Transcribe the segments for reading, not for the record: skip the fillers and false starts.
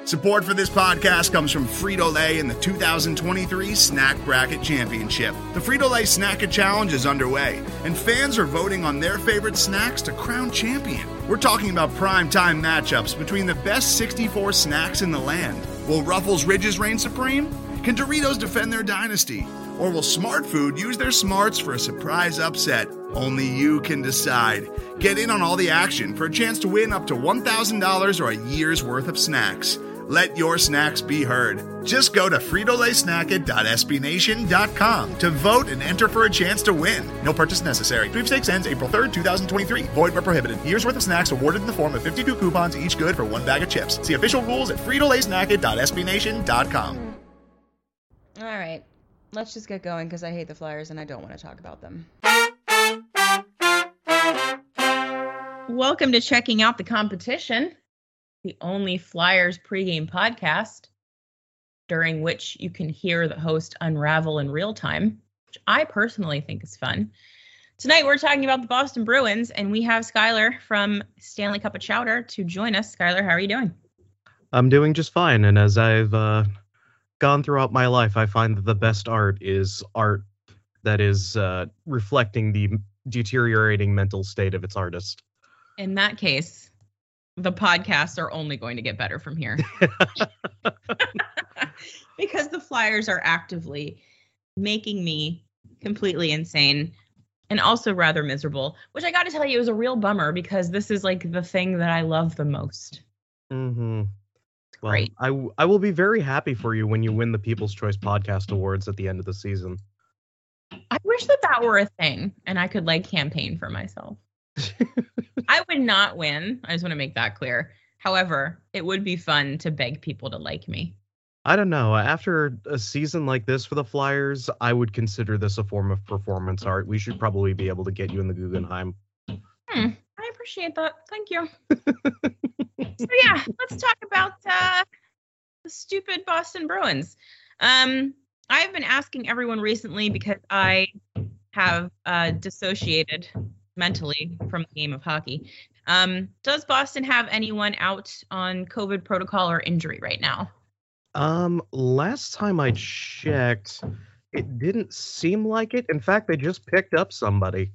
Support for this podcast comes from Frito-Lay and the 2023 Snack Bracket Championship. The Frito-Lay Snack-It Challenge is underway, and fans are voting on their favorite snacks to crown champion. We're talking about prime-time matchups between the best 64 snacks in the land. Will Ruffles Ridges reign supreme? Can Doritos defend their dynasty? Or will Smart Food use their smarts for a surprise upset? Only you can decide. Get in on all the action for a chance to win up to $1,000 or a year's worth of snacks. Let your snacks be heard. Just go to fritolaysnacket.sbnation.com to vote and enter for a chance to win. No purchase necessary. Sweepstakes ends April 3rd, 2023. Void where prohibited. Year's worth of snacks awarded in the form of 52 coupons, each good for one bag of chips. See official rules at fritolaysnacket.sbnation.com. All right. Let's just get going because I hate the Flyers and I don't want to talk about them. Welcome to Checking Out the Competition, the only Flyers pregame podcast during which you can hear the host unravel in real time, which I personally think is fun. Tonight we're talking about the Boston Bruins, and we have Skylar from Stanley Cup of Chowder to join us. Skylar, how are you doing? I'm doing just fine, and as I've gone throughout my life, I find that the best art is art that is reflecting the deteriorating mental state of its artist. In that case, the podcasts are only going to get better from here. Because the Flyers are actively making me completely insane and also rather miserable, which I got to tell you is a real bummer because this is like the thing that I love the most. Mm-hmm. Well, Great. I will be very happy for you when you win the People's Choice Podcast Awards at the end of the season. I wish that were a thing and I could like campaign for myself. I would not win. I just want to make that clear. However, it would be fun to beg people to like me. I don't know. After a season like this for the Flyers, I would consider this a form of performance art. We should probably be able to get you in the Guggenheim. I appreciate that. Thank you. So yeah, let's talk about the stupid Boston Bruins. I've been asking everyone recently because I have dissociated mentally from the game of hockey. Does Boston have anyone out on COVID protocol or injury right now? Last time I checked, it didn't seem like it. In fact, they just picked up somebody.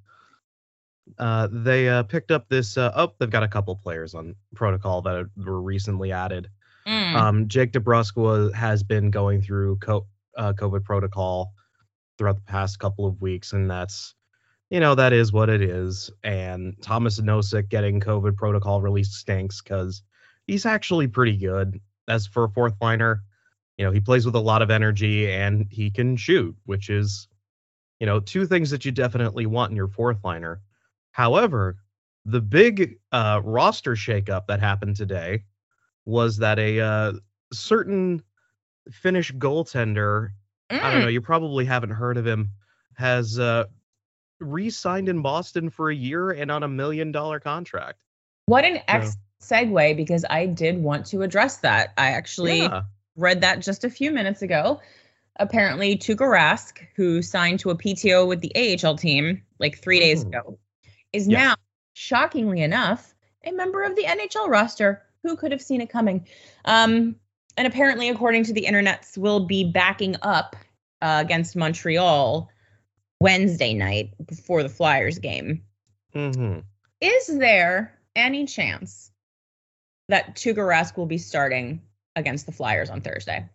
They picked up this, they've got a couple players on protocol that were recently added. Jake DeBrusk has been going through COVID protocol throughout the past couple of weeks, and that's, that is what it is. And Thomas Nosek getting COVID protocol release stinks because he's actually pretty good. As for a fourth liner, he plays with a lot of energy and he can shoot, which is, two things that you definitely want in your fourth liner. However, the big roster shakeup that happened today was that a certain Finnish goaltender, I don't know, you probably haven't heard of him, has re-signed in Boston for a year and on $1 million contract. What an segue, because I did want to address that. I actually read that just a few minutes ago. Apparently, Tuukka Rask, who signed to a PTO with the AHL team like 3 days ago, is now, shockingly enough, a member of the NHL roster. Who could have seen it coming? And apparently, according to the internets, will be backing up against Montreal Wednesday night before the Flyers game. Is there any chance that Tuukka Rask will be starting against the Flyers on Thursday?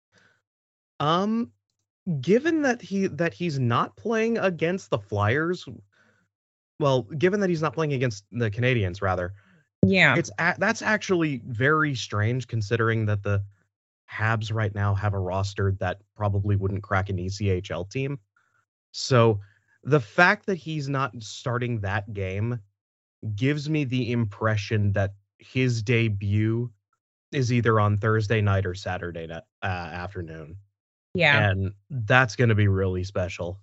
Given that he's not playing against the Flyers, given that he's not playing against the Canadiens, rather. Yeah. That's actually very strange considering that the Habs right now have a roster that probably wouldn't crack an ECHL team. So the fact that he's not starting that game gives me the impression that his debut is either on Thursday night or Saturday afternoon. Yeah. And that's going to be really special.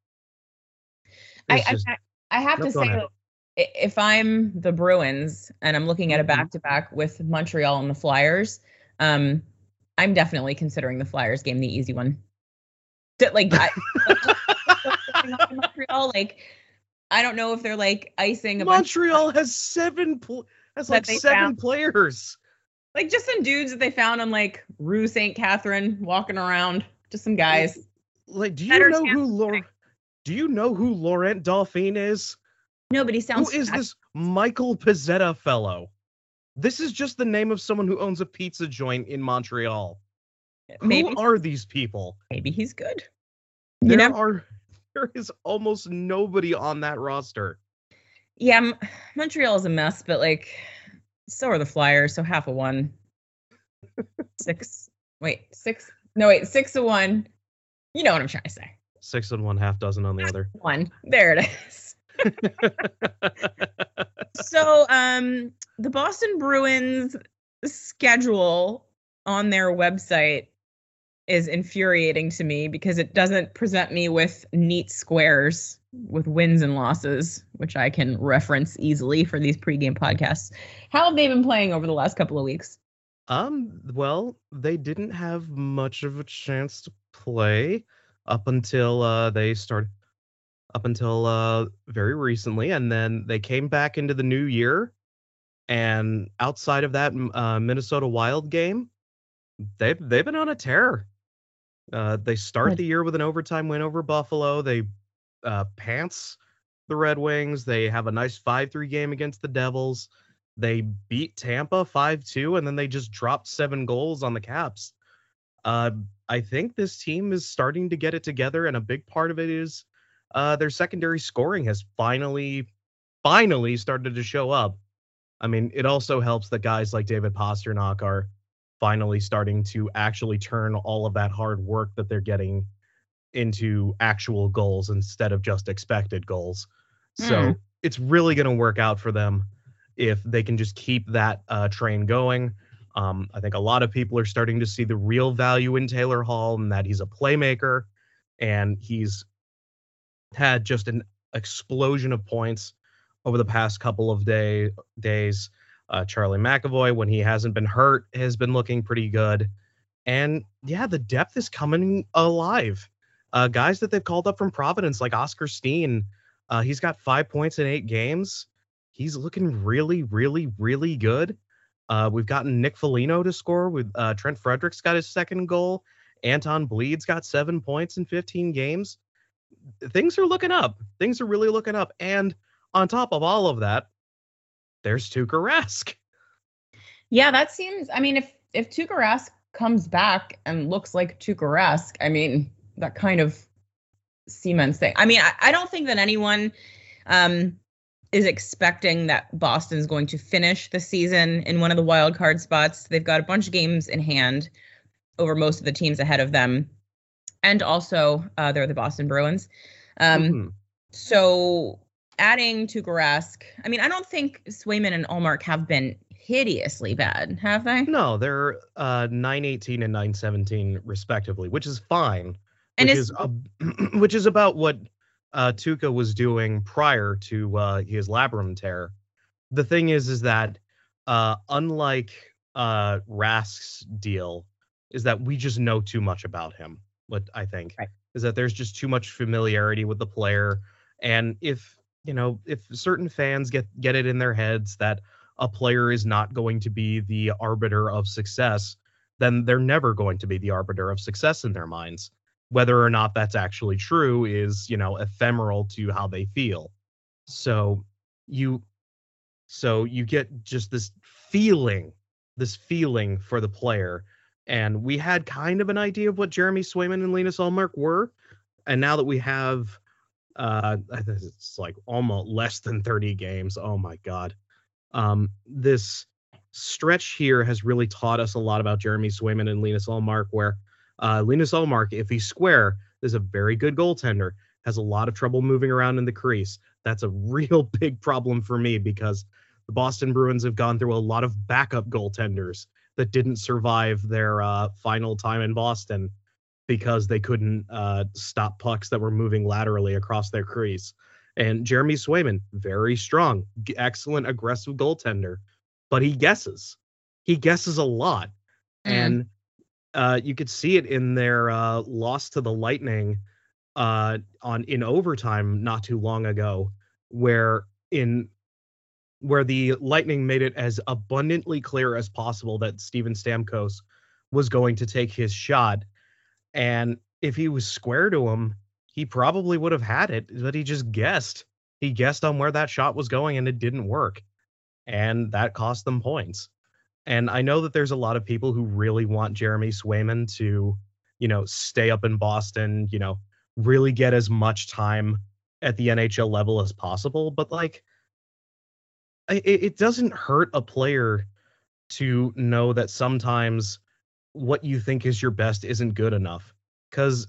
I have to say, if I'm the Bruins and I'm looking at a back-to-back with Montreal and the Flyers, I'm definitely considering the Flyers game the easy one. Montreal, I don't know if they're icing a Montreal has seven players. Like just some dudes that they found on like Rue St. Catherine walking around. Just some guys. Like, do you know who Laurent Dauphin is? Nobody sounds. Who is this Michael Pizzetta fellow? This is just the name of someone who owns a pizza joint in Montreal. Who are these people? Maybe he's good. There is almost nobody on that roster. Yeah, Montreal is a mess, but like, so are the Flyers. So 50-1. 6 of 1. You know what I'm trying to say. 6 and 1/2 dozen on the other. 1. There it is. So, the Boston Bruins schedule on their website is infuriating to me because it doesn't present me with neat squares with wins and losses, which I can reference easily for these pregame podcasts. How have they been playing over the last couple of weeks? Well, they didn't have much of a chance to play up until very recently, and then they came back into the new year, and outside of that Minnesota Wild game, they've been on a tear. They start the year with an overtime win over Buffalo. They pants the Red Wings. They have a nice 5-3 game against the Devils. They beat Tampa 5-2, and then they just dropped 7 goals on the Caps. I think this team is starting to get it together, and a big part of it is their secondary scoring has finally started to show up. I mean, it also helps that guys like David Pastrnak are finally starting to actually turn all of that hard work that they're getting into actual goals instead of just expected goals. So it's really going to work out for them if they can just keep that train going. I think a lot of people are starting to see the real value in Taylor Hall and that he's a playmaker, and he's had just an explosion of points over the past couple of days. Charlie McAvoy, when he hasn't been hurt, has been looking pretty good. And yeah, the depth is coming alive. Guys that they've called up from Providence, like Oscar Steen, he's got 5 points in 8 games. He's looking really, really, really good. We've gotten Nick Foligno to score with Trent Fredericks got his second goal. Anton Bleed's got 7 points in 15 games. Things are looking up. Things are really looking up. And on top of all of that, there's Tuukka Rask. Yeah, that seems, I mean, if Tuukka Rask comes back and looks like Tuukka Rask, I mean, that kind of cements thing. I mean, I don't think that anyone is expecting that Boston's going to finish the season in one of the wild card spots. They've got a bunch of games in hand over most of the teams ahead of them. And also, they're the Boston Bruins. So adding Tuukka Rask, I mean, I don't think Swayman and Ullmark have been hideously bad, have they? No, they're 9-18 and 9-17 respectively, which is fine. Which is about what Tuukka was doing prior to his labrum tear. The thing is that unlike Rask's deal, is that we just know too much about him. What I think is that there's just too much familiarity with the player, and if certain fans get it in their heads that a player is not going to be the arbiter of success, then they're never going to be the arbiter of success in their minds. Whether or not that's actually true is, ephemeral to how they feel. So you get just this feeling for the player. And we had kind of an idea of what Jeremy Swayman and Linus Ullmark were. And now that we have, it's like almost less than 30 games. Oh my God. This stretch here has really taught us a lot about Jeremy Swayman and Linus Ullmark, where Linus Ullmark, if he's square, is a very good goaltender, has a lot of trouble moving around in the crease. That's a real big problem for me because the Boston Bruins have gone through a lot of backup goaltenders that didn't survive their final time in Boston because they couldn't stop pucks that were moving laterally across their crease. And Jeremy Swayman, very strong, excellent, aggressive goaltender, but he guesses a lot. And you could see it in their loss to the Lightning in overtime not too long ago, where in where the Lightning made it as abundantly clear as possible that Steven Stamkos was going to take his shot. And if he was square to him, he probably would have had it, but he just guessed. He guessed on where that shot was going, and it didn't work. And that cost them points. And I know that there's a lot of people who really want Jeremy Swayman to, stay up in Boston, really get as much time at the NHL level as possible. But it doesn't hurt a player to know that sometimes what you think is your best isn't good enough. Because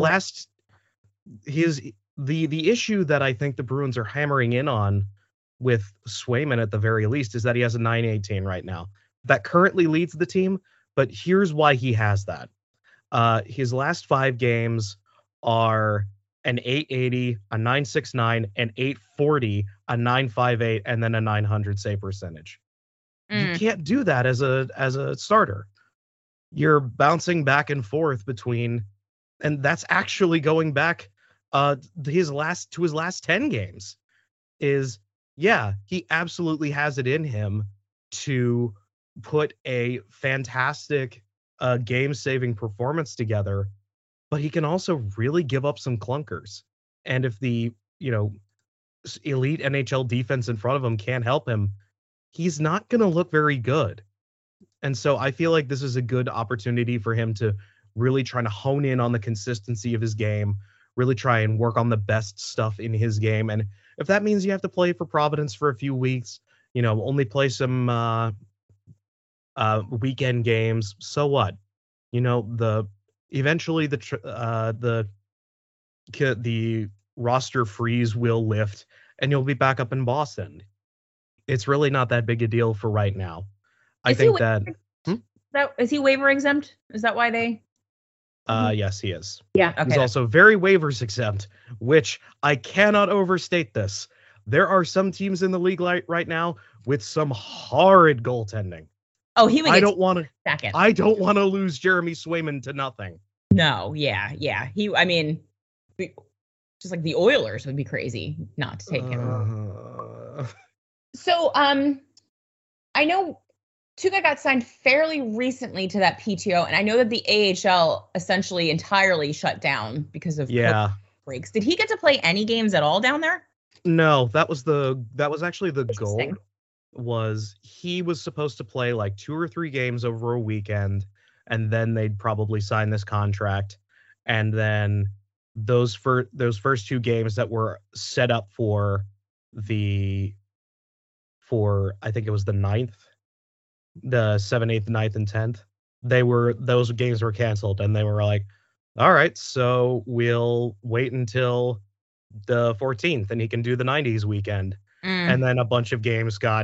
the issue that I think the Bruins are hammering in on with Swayman at the very least is that he has a .918 right now. That currently leads the team, but here's why he has that. His last 5 games are an .880, a .969, an .840, a .958, and then a .900 save percentage. You can't do that as a starter. You're bouncing back and forth between, and that's actually going back his last 10 games. He absolutely has it in him to put a fantastic game-saving performance together, but he can also really give up some clunkers. And if the, elite NHL defense in front of him can't help him, he's not going to look very good. And so I feel like this is a good opportunity for him to really try to hone in on the consistency of his game, really try and work on the best stuff in his game. And if that means you have to play for Providence for a few weeks, only play some weekend games, so what? Eventually the roster freeze will lift and you'll be back up in Boston. It's really not that big a deal for right now. I think that is he waiver exempt? Is that why they? Yes, he is. Yeah. Okay. He's also very waivers exempt, which I cannot overstate this. There are some teams in the league right now with some horrid goaltending. Oh, he would. I don't want to lose Jeremy Swayman to nothing. No. Yeah. Just like the Oilers would be crazy not to take him. So, I know Tuukka got signed fairly recently to that PTO, and I know that the AHL essentially entirely shut down because of COVID breaks. Did he get to play any games at all down there? No, that was actually the goal. Was he was supposed to play like 2 or 3 games over a weekend, and then they'd probably sign this contract, and then those first 2 games that were set up for I think it was the 9th, the 7th, 8th, 9th, and 10th. Those games were canceled, and they were like, all right, so we'll wait until the 14th and he can do the 90s weekend. And then a bunch of games got,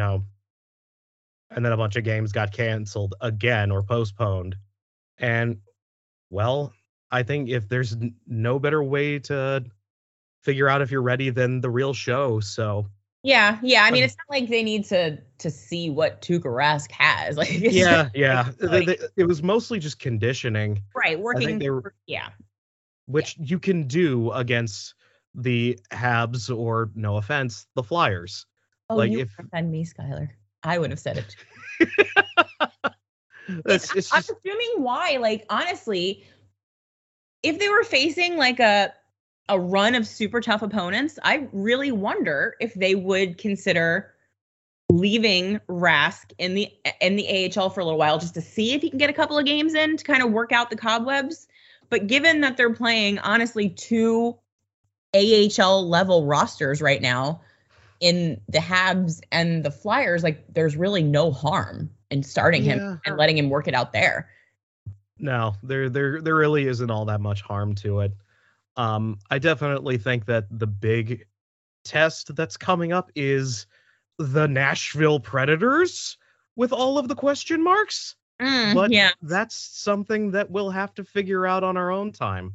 canceled again or postponed. And well, I think if there's no better way to figure out if you're ready than the real show. So yeah. I mean, it's not like they need to see what Tuukka Rask has. Like, it was mostly just conditioning, right? Working, which you can do against the Habs or, no offense, the Flyers. Oh, you would offend me, Skylar. I would have said it. I'm assuming why. Like, honestly, if they were facing like a run of super tough opponents, I really wonder if they would consider leaving Rask in the AHL for a little while just to see if he can get a couple of games in to kind of work out the cobwebs. But given that they're playing, honestly, 2 AHL level rosters right now in the Habs and the Flyers, like there's really no harm in starting him and letting him work it out there. No, there really isn't all that much harm to it. I definitely think that the big test that's coming up is the Nashville Predators with all of the question marks. But that's something that we'll have to figure out on our own time.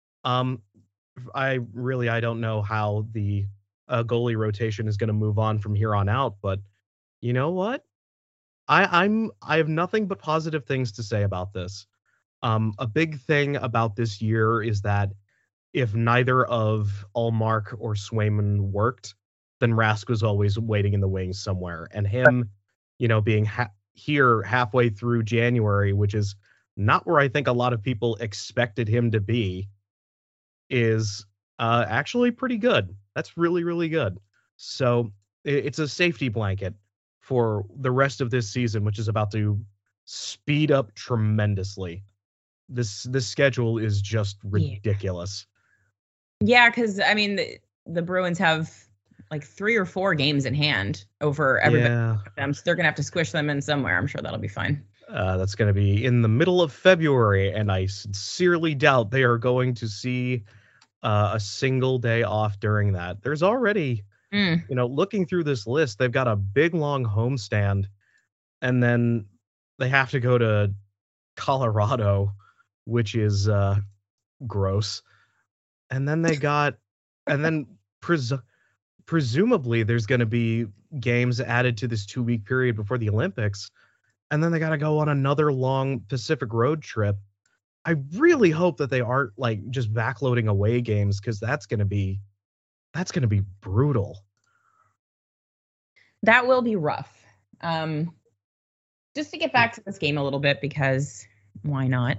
I don't know how the goalie rotation is going to move on from here on out, but you know what? I have nothing but positive things to say about this. A big thing about this year is that if neither of Ullmark or Swayman worked, then Rask was always waiting in the wings somewhere. And him, being here halfway through January, which is not where I think a lot of people expected him to be, is actually pretty good. That's really, really good. So it's a safety blanket for the rest of this season, which is about to speed up tremendously. This schedule is just ridiculous. Yeah, because I mean the Bruins have like 3 or 4 games in hand over everybody. Them, so they're gonna have to squish them in somewhere. I'm sure that'll be fine. That's gonna be in the middle of February, and I sincerely doubt they are going to see a single day off during that. There's already, looking through this list, they've got a big long homestand, and then they have to go to Colorado, which is gross. And then presumably there's going to be games added to this 2-week period before the Olympics. And then they got to go on another long Pacific road trip. I really hope that they aren't like just backloading away games, because that's going to be brutal. That will be rough. Just to get back to this game a little bit, because why not?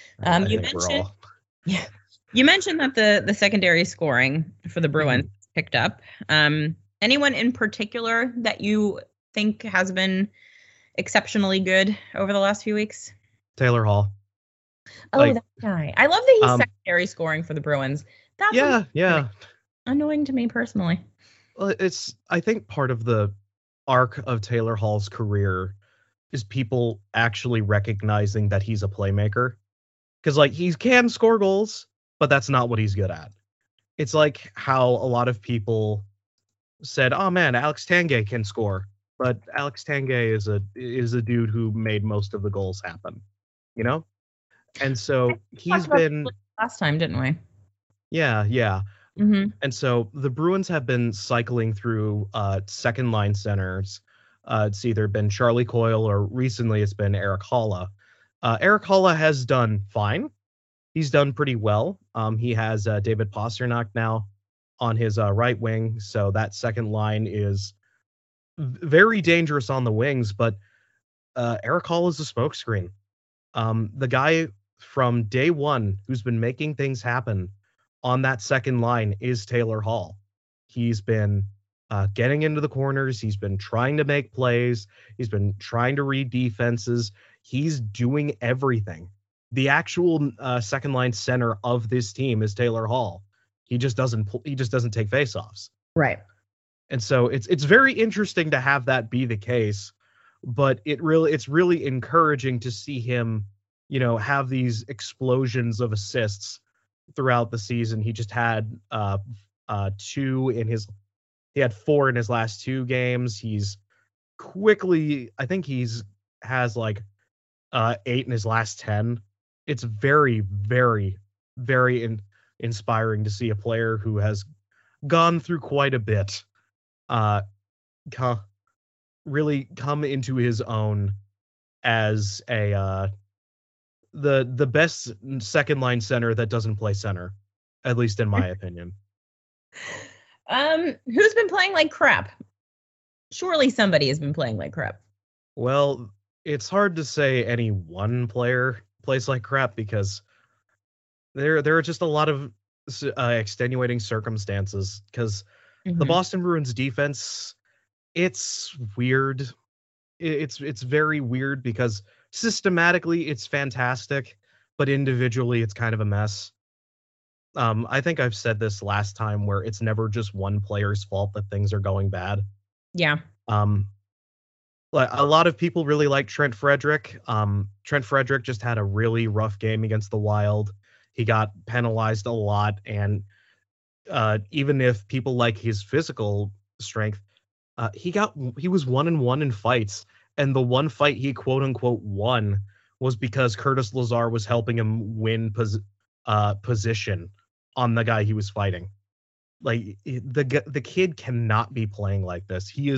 You mentioned that the secondary scoring for the Bruins picked up. Anyone in particular that you think has been exceptionally good over the last few weeks? Taylor Hall. Oh, that guy. I love that he's secondary scoring for the Bruins. That's annoying to me personally. Well, I think part of the arc of Taylor Hall's career is people actually recognizing that he's a playmaker. Because like he can score goals, but that's not what he's good at. It's like how a lot of people said, "Oh man, Alex Tanguay can score," but Alex Tanguay is a dude who made most of the goals happen, And so he's been last time, didn't we? Yeah. Mm-hmm. And so the Bruins have been cycling through second line centers. It's either been Charlie Coyle or recently it's been Erik Haula. Erik Haula has done fine. He's done pretty well. He has David Pastrnak now on his right wing, so that second line is very dangerous on the wings, but Erik Haula is a smokescreen. The guy from day one who's been making things happen on that second line is Taylor Hall. He's been getting into the corners. He's been trying to make plays. He's been trying to read defenses. He's doing everything. The actual second line center of this team is Taylor Hall. He just doesn't take faceoffs. Right. And so it's very interesting to have that be the case, but it's really encouraging to see him, have these explosions of assists throughout the season. He just had 4 in his last 2 games. He's quickly, I think has like 8 in his last 10. It's very, very, very inspiring to see a player who has gone through quite a bit really come into his own as the best second line center that doesn't play center, at least in my opinion. Who's been playing like crap? Surely somebody has been playing like crap. Well, it's hard to say any one player plays like crap, because there are just a lot of extenuating circumstances, because the Boston Bruins defense, it's weird. It's very weird, because systematically it's fantastic, but individually it's kind of a mess. I think I've said this last time, where it's never just one player's fault that things are going bad. Yeah. Like a lot of people really like Trent Frederic. Trent Frederic just had a really rough game against the Wild. He got penalized a lot, and even if people like his physical strength, he was 1-1 in fights, and the one fight he quote unquote won was because Curtis Lazar was helping him win position on the guy he was fighting. Like the kid cannot be playing like this. He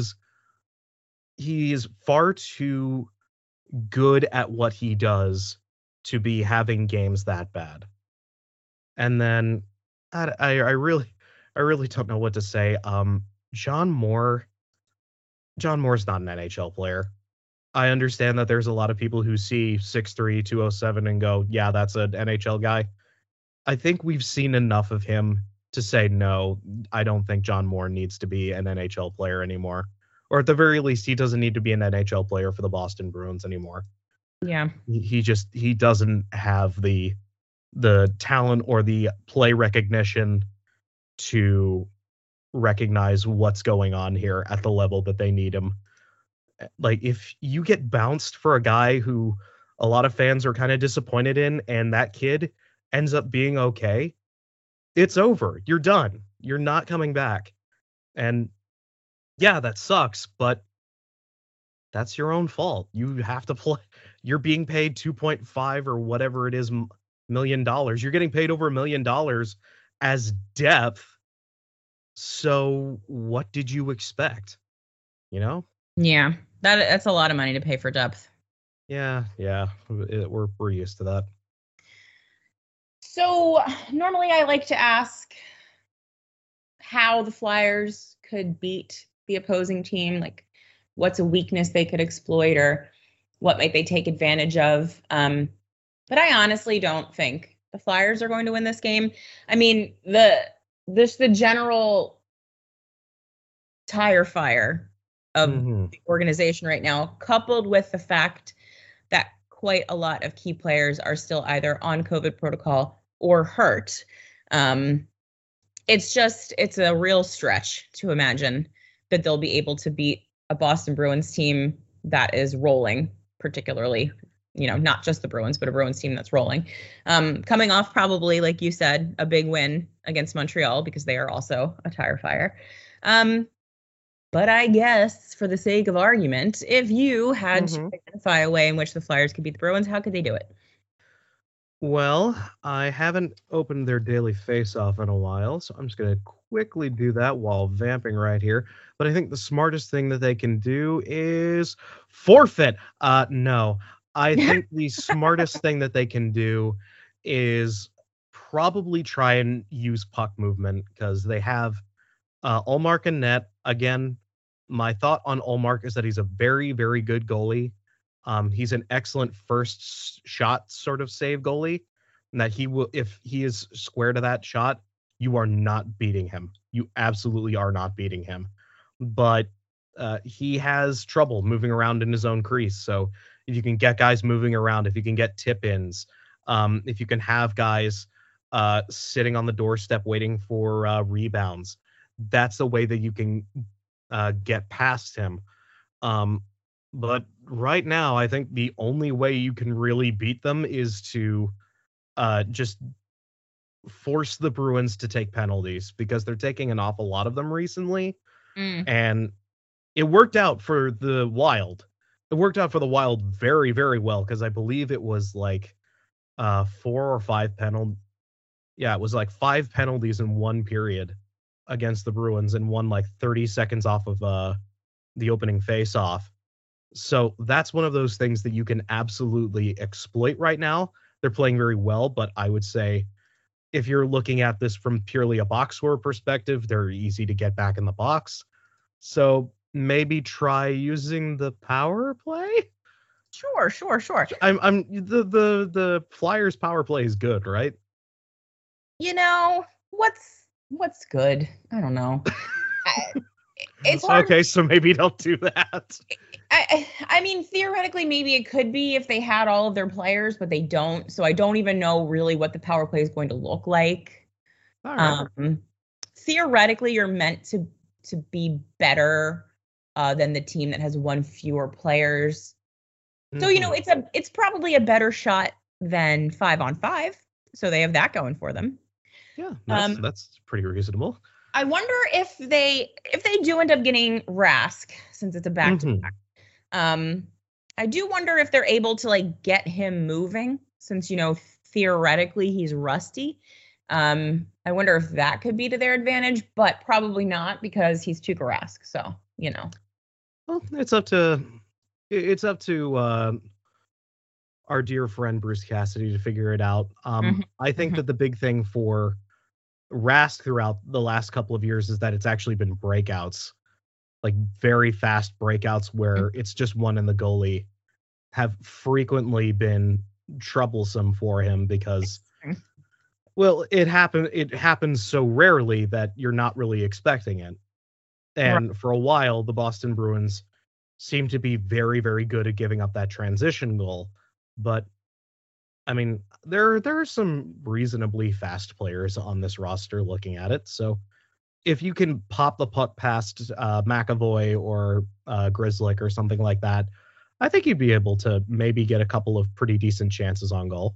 is far too good at what he does to be having games that bad. And then I really don't know what to say. John Moore's not an NHL player. I understand that there's a lot of people who see 6'3", 207 and go, yeah, that's an NHL guy. I think we've seen enough of him to say, no, I don't think John Moore needs to be an NHL player anymore. Or at the very least, he doesn't need to be an NHL player for the Boston Bruins anymore. Yeah. He doesn't have the talent or the play recognition to recognize what's going on here at the level that they need him. Like, if you get bounced for a guy who a lot of fans are kind of disappointed in, and that kid ends up being okay, it's over. You're done. You're not coming back. And yeah, that sucks, but that's your own fault. You have to play. You're being paid 2.5 or whatever it is $1 million. You're getting paid over $1 million as depth. So what did you expect? You know? Yeah, that's a lot of money to pay for depth. Yeah, we're used to that. So normally I like to ask how the Flyers could beat the opposing team, like what's a weakness they could exploit or what might they take advantage of. But I honestly don't think the Flyers are going to win this game. I mean, the general tire fire of the organization right now, coupled with the fact that quite a lot of key players are still either on COVID protocol or hurt. It's a real stretch to imagine that they'll be able to beat a Boston Bruins team that is rolling, particularly, not just the Bruins, but a Bruins team that's rolling. Coming off probably, like you said, a big win against Montreal because they are also a tire fire. But I guess for the sake of argument, if you had to identify a way in which the Flyers could beat the Bruins, how could they do it? Well, I haven't opened their daily face-off in a while, so I'm just going to quickly do that while vamping right here. But I think the smartest thing that they can do is forfeit. No, I think the smartest thing that they can do is probably try and use puck movement because they have Ullmark and net. Again, my thought on Ullmark is that he's a very, very good goalie. He's an excellent first shot sort of save goalie, and that he will, if he is square to that shot, you are not beating him. You absolutely are not beating him. But he has trouble moving around in his own crease. So if you can get guys moving around, if you can get tip-ins, if you can have guys sitting on the doorstep waiting for rebounds, that's the way that you can get past him. But right now, I think the only way you can really beat them is to just force the Bruins to take penalties because they're taking an awful lot of them recently. And it worked out for the Wild. It worked out for the Wild very, very well because I believe it was like 4 or 5 penalties. Yeah, it was like 5 penalties in one period against the Bruins and won like 30 seconds off of the opening face-off. So that's one of those things that you can absolutely exploit right now. They're playing very well, but I would say if you're looking at this from purely a box score perspective, they're easy to get back in the box. So maybe try using the power play. Sure. I'm the Flyers power play is good, right? What's good? I don't know. It's hard. Okay, so maybe don't do that. I mean, theoretically, maybe it could be if they had all of their players, but they don't. So I don't even know really what the power play is going to look like. All right. Theoretically, you're meant to be better than the team that has one fewer players. So it's probably a better shot than 5-on-5. So they have that going for them. Yeah, that's pretty reasonable. I wonder if they do end up getting Rask, since it's a back-to-back. I do wonder if they're able to like get him moving, since theoretically he's rusty. I wonder if that could be to their advantage, but probably not because he's Tuukka Rask. So Well, it's up to our dear friend Bruce Cassidy to figure it out. I think that the big thing for Rask throughout the last couple of years is that it's actually been breakouts, like very fast breakouts where it's just one and the goalie, have frequently been troublesome for him because, well, it happens so rarely that you're not really expecting it. And for a while, the Boston Bruins seem to be very, very good at giving up that transition goal. But I mean, there are some reasonably fast players on this roster looking at it. So if you can pop the puck past McAvoy or Grzelcyk or something like that, I think you'd be able to maybe get a couple of pretty decent chances on goal.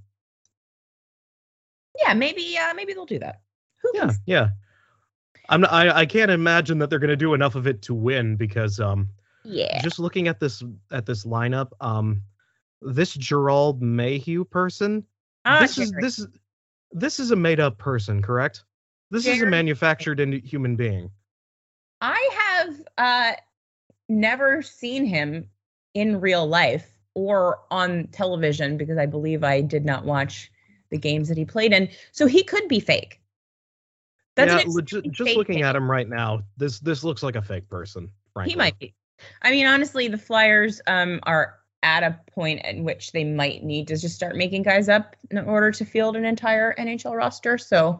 Yeah, maybe they'll do that. Yeah. I can't imagine that they're going to do enough of it to win because just looking at this lineup, this Gerald Mayhew person, this is a made up person, correct? This is a manufactured human being. I have never seen him in real life or on television because I believe I did not watch the games that he played in. So he could be fake. Just looking at him right now, this looks like a fake person, frankly. He might be. I mean, honestly, the Flyers are at a point at which they might need to just start making guys up in order to field an entire NHL roster. So,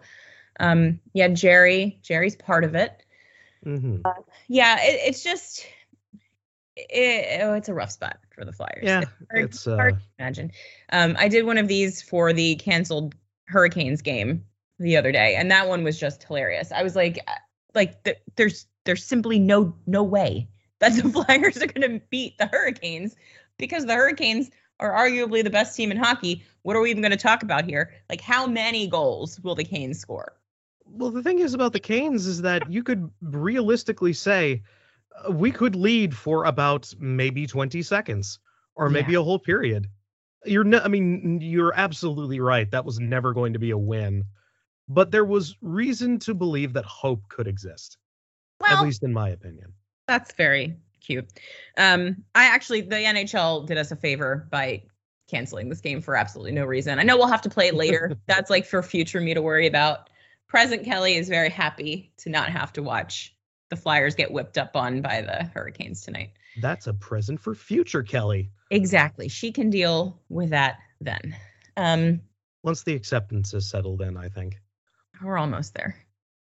Jerry's part of it. Mm-hmm. It's just, it's a rough spot for the Flyers. Yeah, it's hard to imagine. I did one of these for the canceled Hurricanes game the other day, and that one was just hilarious. I was like there's simply no way that the Flyers are going to beat the Hurricanes because the Hurricanes are arguably the best team in hockey. What are we even going to talk about here? Like, how many goals will the Canes score? Well, the thing is about the Canes is that you could realistically say we could lead for about maybe 20 seconds or maybe a whole period. You're absolutely right. That was never going to be a win. But there was reason to believe that hope could exist, at least in my opinion. That's very cute. The NHL did us a favor by canceling this game for absolutely no reason. I know we'll have to play it later. That's like for future me to worry about. Present Kelly is very happy to not have to watch the Flyers get whipped up on by the Hurricanes tonight. That's a present for future Kelly. Exactly. She can deal with that then. Once the acceptance is settled in, I think. We're almost there.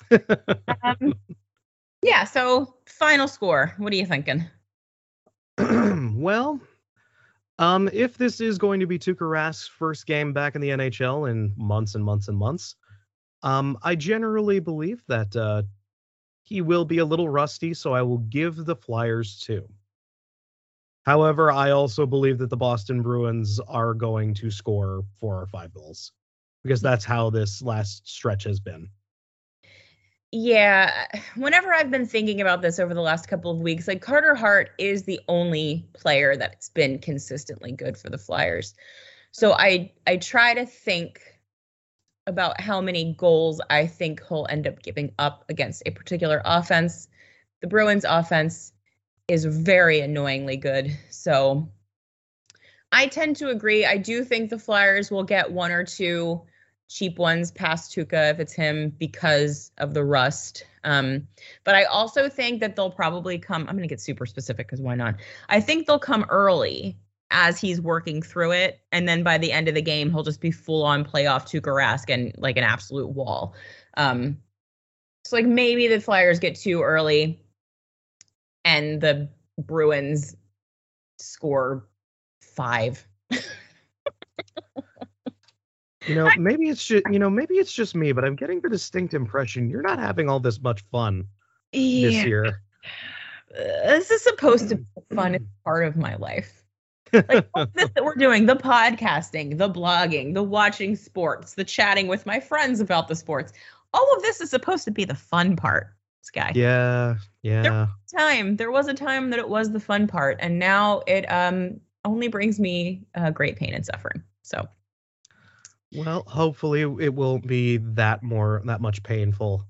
So final score. What are you thinking? Well, if this is going to be Tuukka Rask's first game back in the NHL in months and months and months, I generally believe that he will be a little rusty, so I will give the Flyers 2. However, I also believe that the Boston Bruins are going to score 4 or 5 goals because that's how this last stretch has been. Yeah, whenever I've been thinking about this over the last couple of weeks, like Carter Hart is the only player that's been consistently good for the Flyers. So I try to think about how many goals I think he'll end up giving up against a particular offense. The Bruins offense is very annoyingly good. So I tend to agree. I do think the Flyers will get 1 or 2 cheap ones past Tuukka if it's him because of the rust. But I also think that they'll probably come. I'm going to get super specific because why not? I think they'll come early as he's working through it. And then by the end of the game, he'll just be full on playoff Tuukka Rask and like an absolute wall. So like maybe the Flyers get 2 early and the Bruins score 5. Maybe it's just me, but I'm getting the distinct impression you're not having all this much fun this year. This is supposed to be the funnest part of my life. Like all this that we're doing, the podcasting, the blogging, the watching sports, the chatting with my friends about the sports. All of this is supposed to be the fun part, Sky. Yeah. There was a time that it was the fun part, and now it only brings me great pain and suffering. So. Well, hopefully it won't be that much painful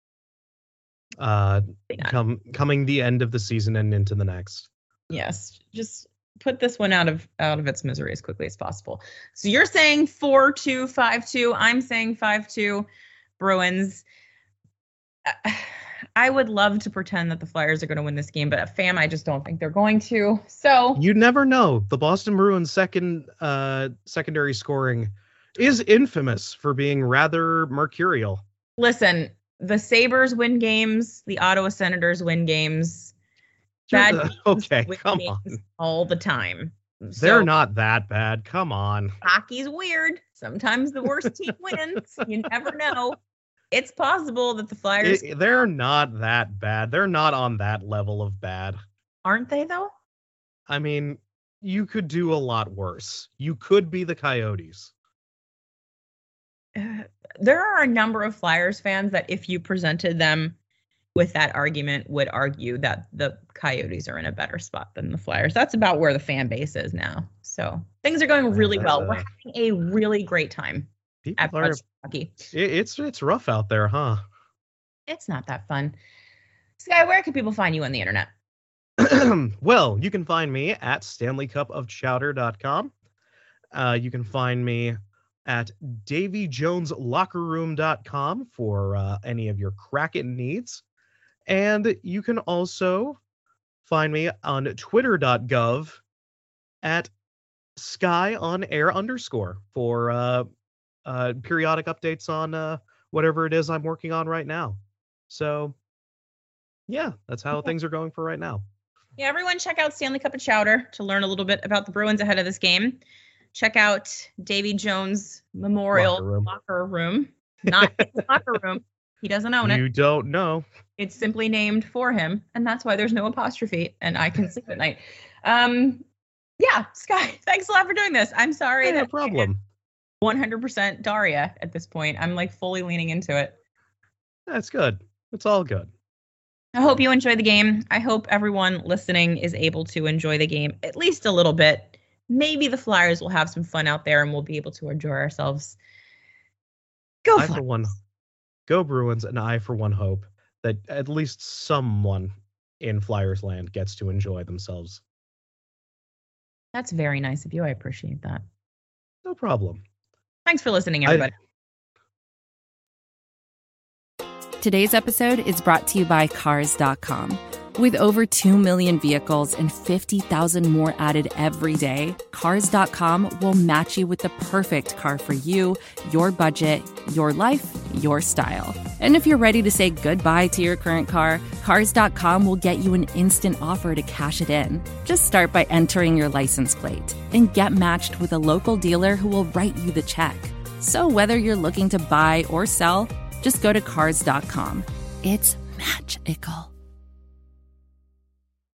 coming the end of the season and into the next. Yes, just put this one out of its misery as quickly as possible. So you're saying 4-2, 5-2. I'm saying 5-2 Bruins. I would love to pretend that the Flyers are going to win this game, but fam, I just don't think they're going to. So you never know. The Boston Bruins' secondary scoring is infamous for being rather mercurial. Listen, the Sabres win games. The Ottawa Senators win games. Okay, come on. All the time. They're not that bad. Come on. Hockey's weird. Sometimes the worst team wins. You never know. It's possible that the Flyers... They're not that bad. They're not on that level of bad. Aren't they, though? I mean, you could do a lot worse. You could be the Coyotes. There are a number of Flyers fans that if you presented them with that argument would argue that the Coyotes are in a better spot than the Flyers. That's about where the fan base is now. So things are going really well. We're having a really great time at hockey. It's rough out there, huh? It's not that fun. Sky, where can people find you on the internet? Well, you can find me at StanleyCupOfChowder.com. You can find me at DavyJonesLockerRoom.com for any of your Kraken needs. And you can also find me on Twitter.gov at SkyOnAir_ for periodic updates on whatever it is I'm working on right now. So, yeah, that's how things are going for right now. Yeah, everyone check out Stanley Cup of Chowder to learn a little bit about the Bruins ahead of this game. Check out Davy Jones Memorial Locker Room. Not his locker room. He doesn't own it. You don't know. It's simply named for him, and that's why there's no apostrophe, and I can sleep at night. Yeah, Sky, thanks a lot for doing this. I'm sorry. No problem. 100% Daria at this point. I'm like fully leaning into it. That's good. It's all good. I hope you enjoy the game. I hope everyone listening is able to enjoy the game at least a little bit. Maybe the Flyers will have some fun out there and we'll be able to enjoy ourselves. Go Flyers. For one, go Bruins, and I for one hope that at least someone in Flyers land gets to enjoy themselves. That's very nice of you. I appreciate that. No problem. Thanks for listening, everybody. Today's episode is brought to you by Cars.com. With over 2 million vehicles and 50,000 more added every day, Cars.com will match you with the perfect car for you, your budget, your life, your style. And if you're ready to say goodbye to your current car, Cars.com will get you an instant offer to cash it in. Just start by entering your license plate and get matched with a local dealer who will write you the check. So whether you're looking to buy or sell, just go to Cars.com. It's magical.